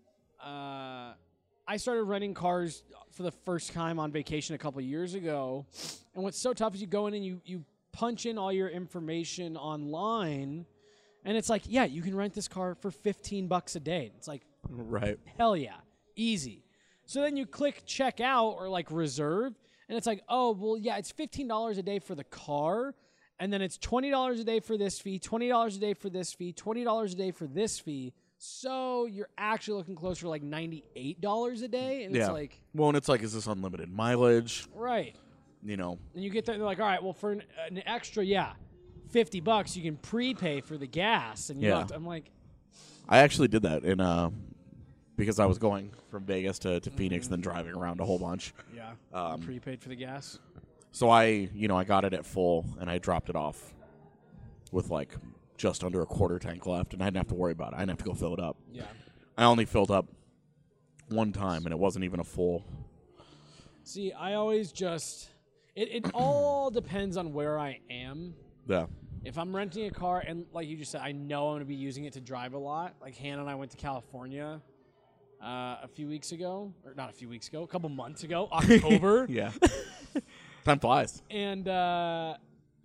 I started renting cars for the first time on vacation a couple of years ago, and what's so tough is you go in and you punch in all your information online, and it's like, yeah, you can rent this car for $15 a day. It's like, right, hell yeah, easy. So then you click check out or reserve, and it's like, oh, well, yeah, it's $15 a day for the car. And then it's $20 a day for this fee, $20 a day for this fee, $20 a day for this fee. So you're actually looking closer to $98 a day. And it's like... Well, and it's like, is this unlimited mileage? Right. You know. And you get there, they're like, all right, well, for an extra, $50, you can prepay for the gas. And I'm like... I actually did that because I was going from Vegas to Phoenix and then driving around a whole bunch. Yeah. Prepaid for the gas. So I got it at full, and I dropped it off with just under a quarter tank left, and I didn't have to worry about it. I didn't have to go fill it up. Yeah. I only filled up one time, and it wasn't even a full. See, I always just it all depends on where I am. Yeah. If I'm renting a car, and like you just said, I know I'm going to be using it to drive a lot. Like Hannah and I went to California a few weeks ago, or not a few weeks ago, a couple months ago, October. Yeah. Time flies. And, our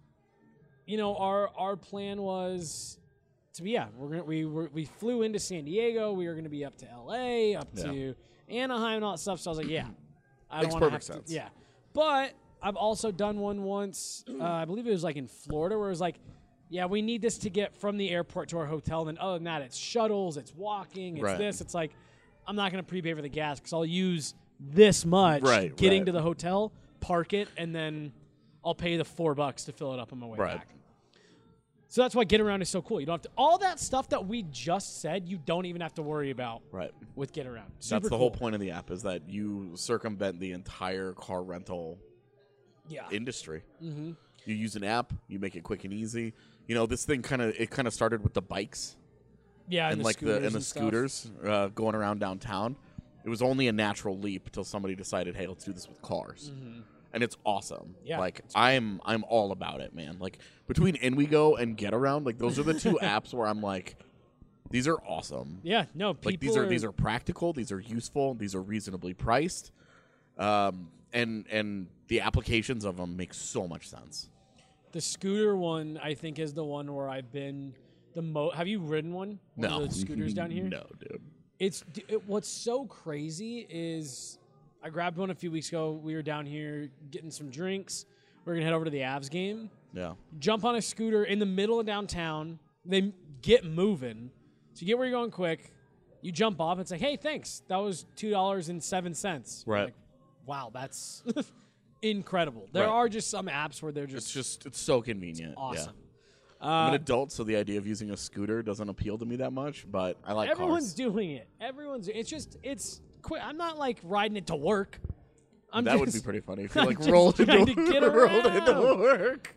plan was to be, we flew into San Diego. We were going to be up to LA, to Anaheim and all that stuff. So I was like, I don't want to have sense. to. Yeah. But I've also done one once, I believe it was in Florida, where it was like, we need this to get from the airport to our hotel. And then other than that, it's shuttles, it's walking, it's this. It's like, I'm not going to prepay for the gas because I'll use this much getting to the hotel, park it, and then I'll pay the $4 to fill it up on my way back. So that's why Get Around is so cool. You don't have to all that stuff that we just said. You don't even have to worry about with Get Around. Super that's the cool. whole point of the app, is that you circumvent the entire car rental industry. Mm-hmm. You use an app, you make it quick and easy. This thing kind of started with the bikes. Yeah, and the scooters going around downtown. It was only a natural leap until somebody decided, hey, let's do this with cars. Mm-hmm. And it's awesome. Yeah. I'm all about it, man. Between InWeGo and Get Around, those are the two apps where I'm like, these are awesome. Yeah, no, people these are practical, these are useful, these are reasonably priced. and the applications of them make so much sense. The scooter one, I think, is the one where I've been the most. Have you ridden one? One No. of the scooters down here? No, dude. What's so crazy is I grabbed one a few weeks ago. We were down here getting some drinks. We're going to head over to the Avs game. Yeah. Jump on a scooter in the middle of downtown. They get moving. So you get where you're going quick. You jump off. It's like, hey, thanks. That was $2.07. Right. Like, wow, that's incredible. There Right. are just some apps where they're just It's so convenient. awesome. Yeah. I'm an adult, so the idea of using a scooter doesn't appeal to me that much, but I like Everyone's cars. doing it. It's quick. I'm not like riding it to work. That would be pretty funny if you I'm like just rolled trying into, to get rolled into around. work.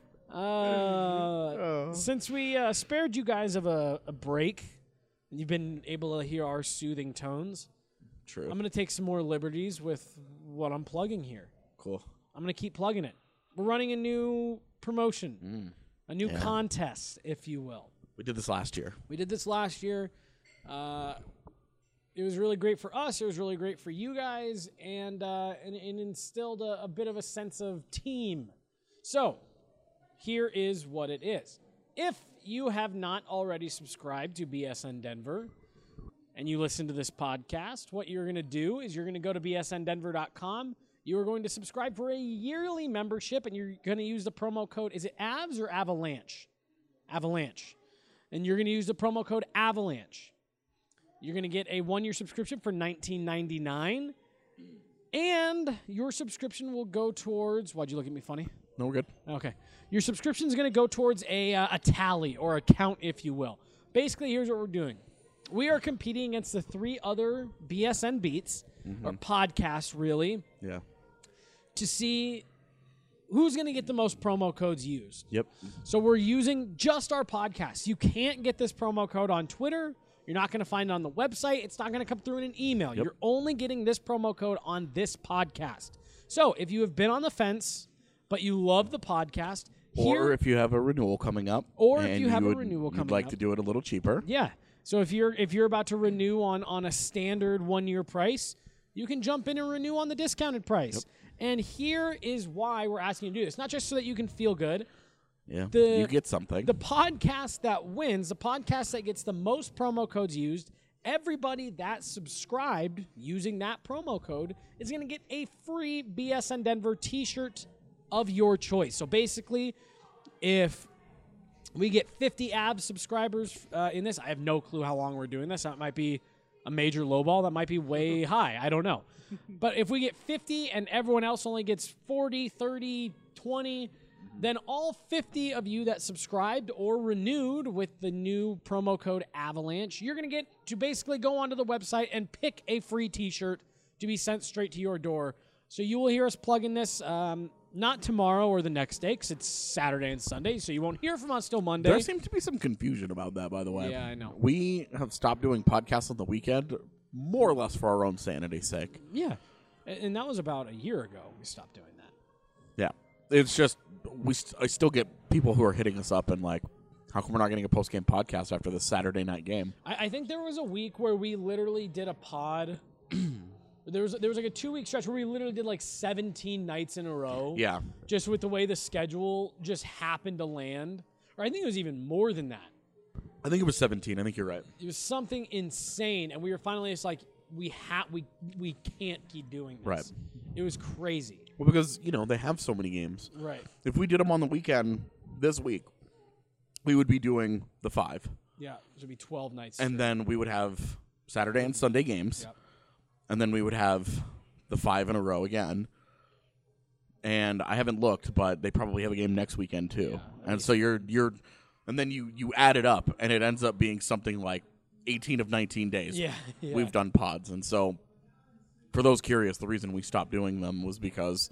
Since we spared you guys of a break, and you've been able to hear our soothing tones, True. I'm going to take some more liberties with what I'm plugging here. Cool. I'm going to keep plugging it. We're running a new promotion, a new contest, if you will. We did this last year. We did this last year. It was really great for us. It was really great for you guys, and instilled a bit of a sense of team. So, here is what it is. If you have not already subscribed to BSN Denver and you listen to this podcast, what you're going to do is you're going to go to bsndenver.com. You are going to subscribe for a yearly membership, and you're going to use the promo code, is it AVS or Avalanche? Avalanche. And you're going to use the promo code Avalanche. You're going to get a 1-year subscription for $19.99, and your subscription will go towards, why'd you look at me funny? No, we're good. Okay. Your subscription is going to go towards a tally or a count, if you will. Basically, here's what we're doing. We are competing against the 3 other BSN beats, or podcasts, really, Yeah. to see who's going to get the most promo codes used. Yep. So we're using just our podcast. You can't get this promo code on Twitter. You're not going to find it on the website. It's not going to come through in an email. Yep. You're only getting this promo code on this podcast. So if you have been on the fence, but you love the podcast, Or if you have a renewal coming up. Or if and you have a would- renewal you'd coming like up. to do it a little cheaper. yeah. So if you're about to renew on a standard 1-year price, you can jump in and renew on the discounted price. And here is why we're asking you to do this. Not just so that you can feel good. Yeah. The- you get something. The podcast that wins, the podcast that gets the most promo codes used, everybody that subscribed using that promo code is going to get a free BSN Denver t-shirt of your choice. So basically, if we get 50 abs subscribers in this, I have no clue how long we're doing this. That might be a major lowball. That might be way high. I don't know. But if we get 50 and everyone else only gets 40, 30, 20, then all 50 of you that subscribed or renewed with the new promo code Avalanche, you're going to get to basically go onto the website and pick a free t-shirt to be sent straight to your door. So you will hear us plugging this not tomorrow or the next day, because it's Saturday and Sunday, so you won't hear from us till Monday. There seems to be some confusion about that, by the way. Yeah, I know. We have stopped doing podcasts on the weekend, more or less for our own sanity's sake. Yeah. And that was about a year ago we stopped doing that. Yeah. It's just, I still get people who are hitting us up and like, how come we're not getting a post-game podcast after the Saturday night game? I think there was a week where we literally did a pod. There was like a 2-week stretch where we literally did like 17 nights in a row. Yeah. Just with the way the schedule just happened to land. Or I think it was even more than that. I think it was 17. I think you're right. It was something insane, and we were finally just like, we can't keep doing this. Right. It was crazy. Well, because, they have so many games. Right. If we did them on the weekend this week, we would be doing the 5. Yeah. It would be 12 nights. And then we would have Saturday and Sunday games. Yep. And then we would have the 5 in a row again. And I haven't looked, but they probably have a game next weekend too. Yeah. And so you're and then you add it up, and it ends up being something like 18 of 19 days. Yeah. We've done pods. And so for those curious, the reason we stopped doing them was because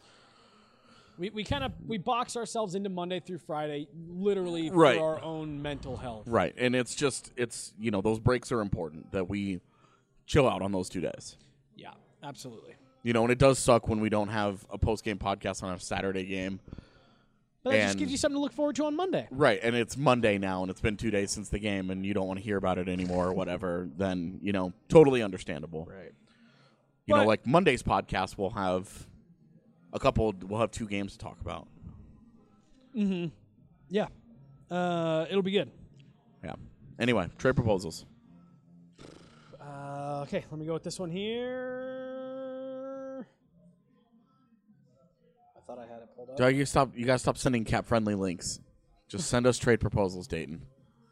we box ourselves into Monday through Friday, literally Right. for our own mental health. right. And it's those breaks are important, that we chill out on those 2 days. Yeah, absolutely. And it does suck when we don't have a post-game podcast on a Saturday game. But that just And- gives you something to look forward to on Monday. Right, and it's Monday now, and it's been 2 days since the game, and you don't want to hear about it anymore or whatever, then, totally understandable. Right. You know, But- like Monday's podcast will have we'll have 2 games to talk about. Yeah. It'll be good. Yeah. Anyway, trade proposals. Okay, let me go with this one here. I thought I had it pulled up. You gotta stop sending cap-friendly links. Just send us trade proposals, Dayton.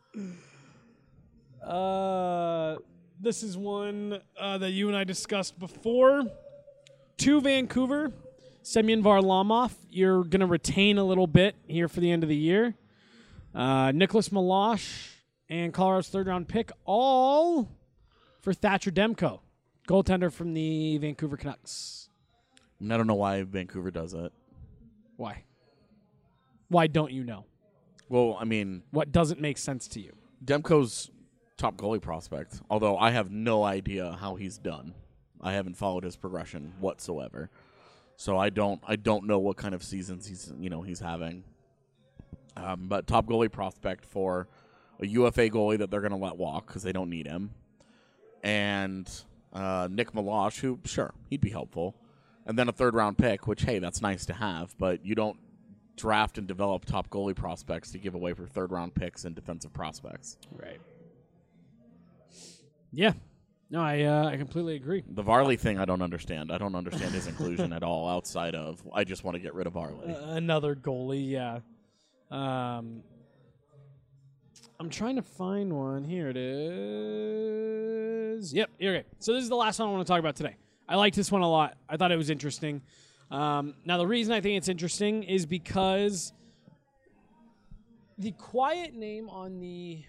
This is one that you and I discussed before. To Vancouver, Semyon Varlamov. You're going to retain a little bit here for the end of the year. Nicholas Milosh and Colorado's third-round pick, all for Thatcher Demko, goaltender from the Vancouver Canucks. I don't know why Vancouver does it. Why? Why don't you know? Well, I mean, What doesn't make sense to you? Demko's top goalie prospect, although I have no idea how he's done. I haven't followed his progression whatsoever. So I don't know what kind of seasons he's having. But top goalie prospect for a UFA goalie that they're going to let walk because they don't need him. And Nick Milosh, who, sure, he'd be helpful. And then a third-round pick, which, hey, that's nice to have, but you don't draft and develop top goalie prospects to give away for third-round picks and defensive prospects. Right. Yeah. No, I completely agree. The Varley thing I don't understand. I don't understand his inclusion at all outside of I just want to get rid of Varley. Another goalie, yeah. I'm trying to find one. Here it is. Yep, okay. So this is the last one I want to talk about today. I liked this one a lot. I thought it was interesting. Now, the reason I think it's interesting is because the quiet name on the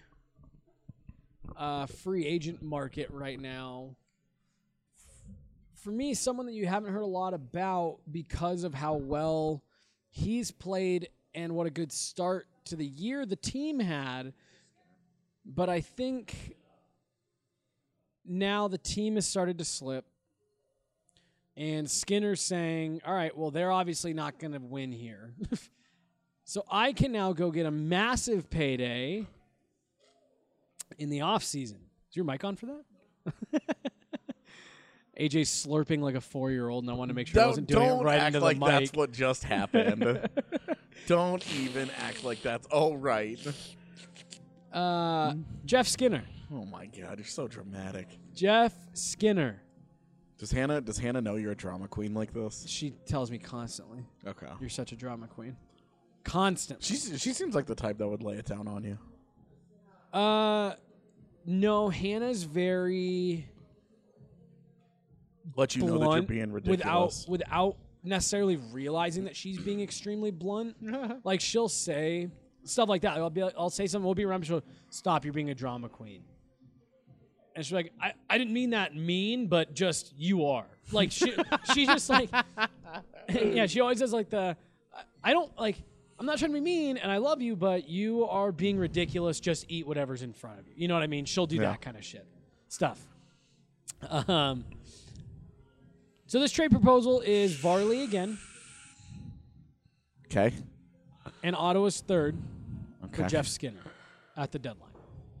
free agent market right now, for me, someone that you haven't heard a lot about because of how well he's played and what a good start to the year the team had. But I think now the team has started to slip. And Skinner's saying, all right, well, they're obviously not going to win here. So I can now go get a massive payday in the offseason. Is your mic on for that? AJ's slurping like a 4-year-old, and I want to make sure I wasn't doing it right into the mic. Don't act like that's what just happened. Don't even act like that's all right. Jeff Skinner. Oh, my God. You're so dramatic. Jeff Skinner. Does Hannah know you're a drama queen like this? She tells me constantly. Okay. You're such a drama queen. Constantly. She seems like the type that would lay it down on you. No, Hannah's very let you blunt know that you're being ridiculous. Without necessarily realizing that she's being extremely blunt. Like, she'll say stuff like that. I'll say something, we'll be around, she'll stop, you're being a drama queen. And she's like, I didn't mean that mean, but just you are. Like, she's just like, yeah, she always does like I'm not trying to be mean, and I love you, but you are being ridiculous. Just eat whatever's in front of you. You know what I mean? She'll do that kind of stuff. So this trade proposal is Varley again. Okay. And Ottawa's third for Okay. Jeff Skinner at the deadline.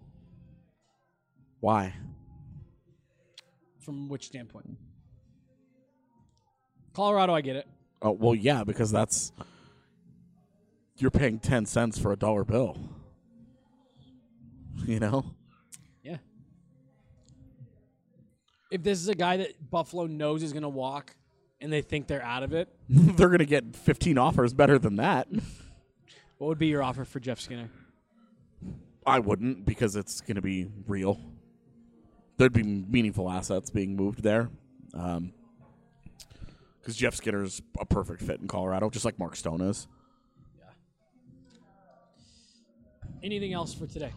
Why? From which standpoint? Colorado, I get it. Oh, well, yeah, because you're paying 10 cents for a dollar bill. You know? Yeah. If this is a guy that Buffalo knows is going to walk and they think they're out of it, They're going to get 15 offers better than that. what would be your offer for Jeff Skinner? I wouldn't, because it's going to be real. There'd be meaningful assets being moved there. Because Jeff Skinner's a perfect fit in Colorado, just like Mark Stone is. Yeah. Anything else for today?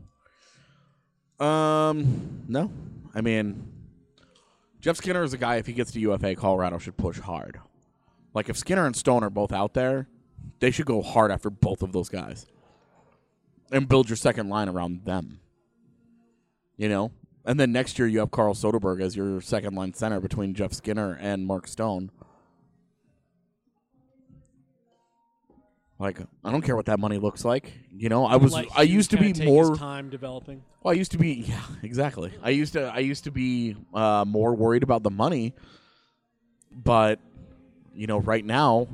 No. I mean, Jeff Skinner is a guy, if he gets to UFA, Colorado should push hard. Like, if Skinner and Stone are both out there, they should go hard after both of those guys. And build your second line around them. You know? And then next year you have Carl Soderberg as your second line center between Jeff Skinner and Mark Stone. Like, I don't care what that money looks like. You know, I used to be more time developing. Well, I used to be, yeah, exactly. I used to be more worried about the money, but right now,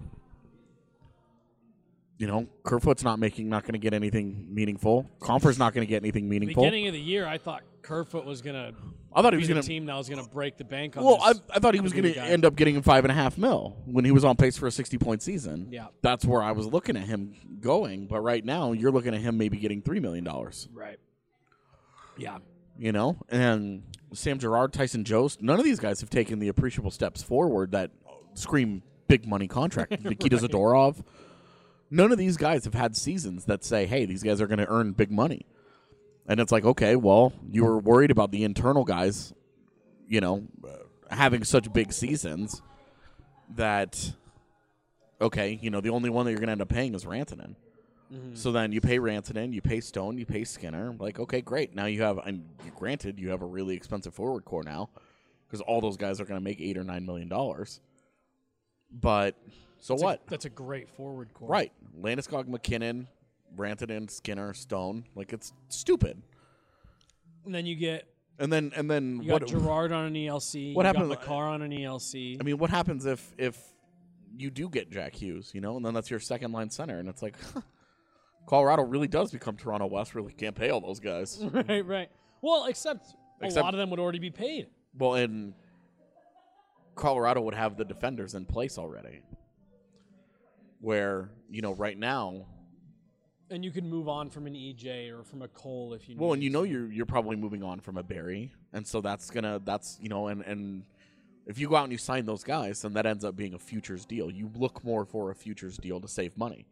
Kerfoot's not going to get anything meaningful. Comfer's not going to get anything meaningful. Beginning of the year, I thought Kerfoot was going to. I thought he was going to team that was going to break the bank on. Well, this I thought he was going to end up getting $5.5 million when he was on pace for a 60-point season. Yeah, that's where I was looking at him going. But right now, you're looking at him maybe getting $3 million. Right. Yeah. And Sam Girard, Tyson Jost, none of these guys have taken the appreciable steps forward that scream big money contract. Nikita Zadorov. None of these guys have had seasons that say, hey, these guys are going to earn big money. And it's like, okay, well, you were worried about the internal guys, having such big seasons that, okay, the only one that you're going to end up paying is Rantanen. Mm-hmm. So then you pay Rantanen, you pay Stone, you pay Skinner. Like, okay, great. Now you have, and granted, you have a really expensive forward core now because all those guys are going to make $8 or $9 million. But so what? That's a great forward core. Right. Landeskog, McKinnon, Rantanen, Skinner, Stone. Like, it's stupid. And then you get. And then you got Girard on an ELC. What happens? Makar on an ELC. I mean, what happens if you do get Jack Hughes? And then that's your second line center, and it's like, Colorado really does become Toronto West. Really can't pay all those guys. Right. Well, except a lot of them would already be paid. Well, and Colorado would have the defenders in place already. Where, right now. And you can move on from an EJ or from a Cole if you need. Well, and you're probably moving on from a Barry. And so that's and if you go out and you sign those guys, then that ends up being a futures deal. You look more for a futures deal to save money.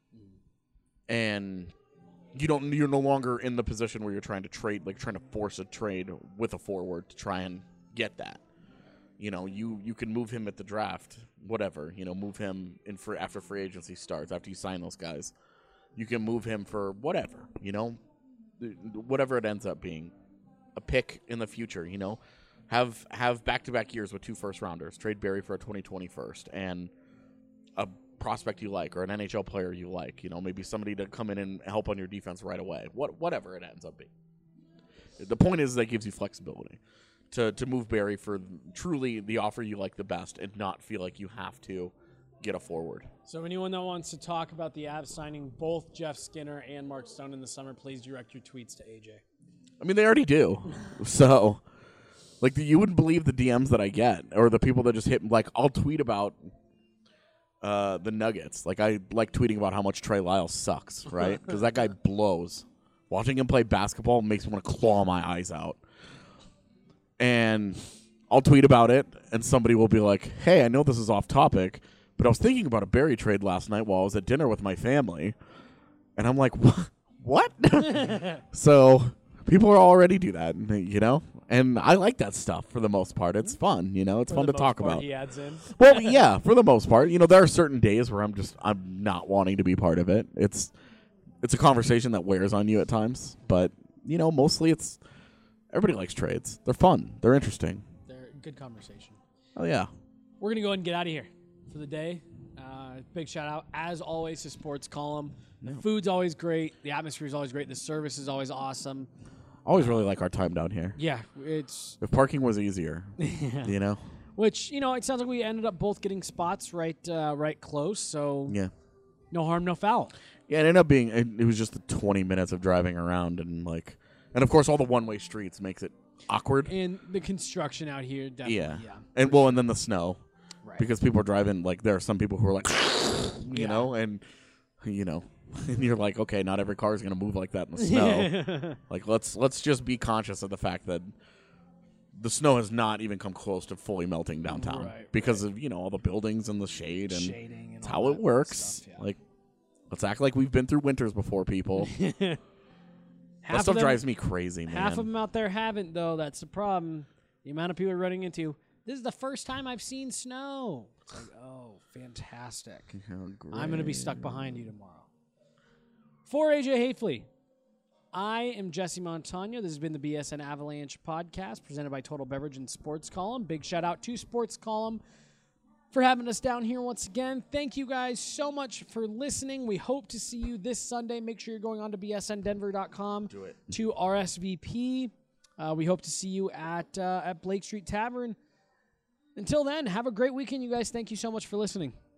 And you're no longer in the position where you're trying to trade, like trying to force a trade with a forward to try and get that. You can move him at the draft, whatever. Move him after free agency starts, after you sign those guys. You can move him for whatever, whatever it ends up being, a pick in the future. Have back-to-back years with 2 first-rounders. Trade Barry for a 2020 first and a prospect you like or an NHL player you like. Maybe somebody to come in and help on your defense right away. Whatever it ends up being. The point is that gives you flexibility to move Barry for truly the offer you like the best and not feel like you have to get a forward. So anyone that wants to talk about the Avs signing both Jeff Skinner and Mark Stone in the summer, please direct your tweets to AJ. I mean, they already do. So, like, you wouldn't believe the DMs that I get or the people that just hit. Like, I'll tweet about the Nuggets. Like, I like tweeting about how much Trey Lyles sucks, right? Because that guy blows. Watching him play basketball makes me want to claw my eyes out. And I'll tweet about it, and somebody will be like, hey, I know this is off topic, but I was thinking about a Barry trade last night while I was at dinner with my family. And I'm like, what? So people already do that, And I like that stuff for the most part. It's fun, It's fun to talk about. He adds in. Well, yeah, for the most part. There are certain days where I'm not wanting to be part of it. It's a conversation that wears on you at times. But, mostly everybody likes trades. They're fun. They're interesting. They're a good conversation. Oh, yeah. We're going to go ahead and get out of here for the day. Big shout out, as always, to Sports Column. The food's always great. The atmosphere is always great. The service is always awesome. I always really like our time down here. Yeah, it's... If parking was easier, Which, it sounds like we ended up both getting spots right close, so... Yeah. No harm, no foul. Yeah, it ended up being... It was just the 20 minutes of driving around and, And, of course, all the one-way streets makes it awkward. And the construction out here, definitely, yeah. And then the snow. Right. Because people are driving, there are some people who are and you're like, okay, not every car is going to move like that in the snow. Let's just be conscious of the fact that the snow has not even come close to fully melting downtown because of, all the buildings and the shade and shading and it's how it works. Stuff, yeah. Let's act like we've been through winters before, people. That stuff drives me crazy, man. Half of them out there haven't, though. That's the problem. The amount of people are running into, this is the first time I've seen snow. It's like, oh, fantastic. I'm going to be stuck behind you tomorrow. For AJ Hafley, I am Jesse Montano. This has been the BSN Avalanche podcast presented by Total Beverage and Sports Column. Big shout out to Sports Column for having us down here once again. Thank you guys so much for listening. We hope to see you this Sunday. Make sure you're going on to bsndenver.com to RSVP. We hope to see you at Blake Street Tavern Until then, have a great weekend, you guys. Thank you so much for listening.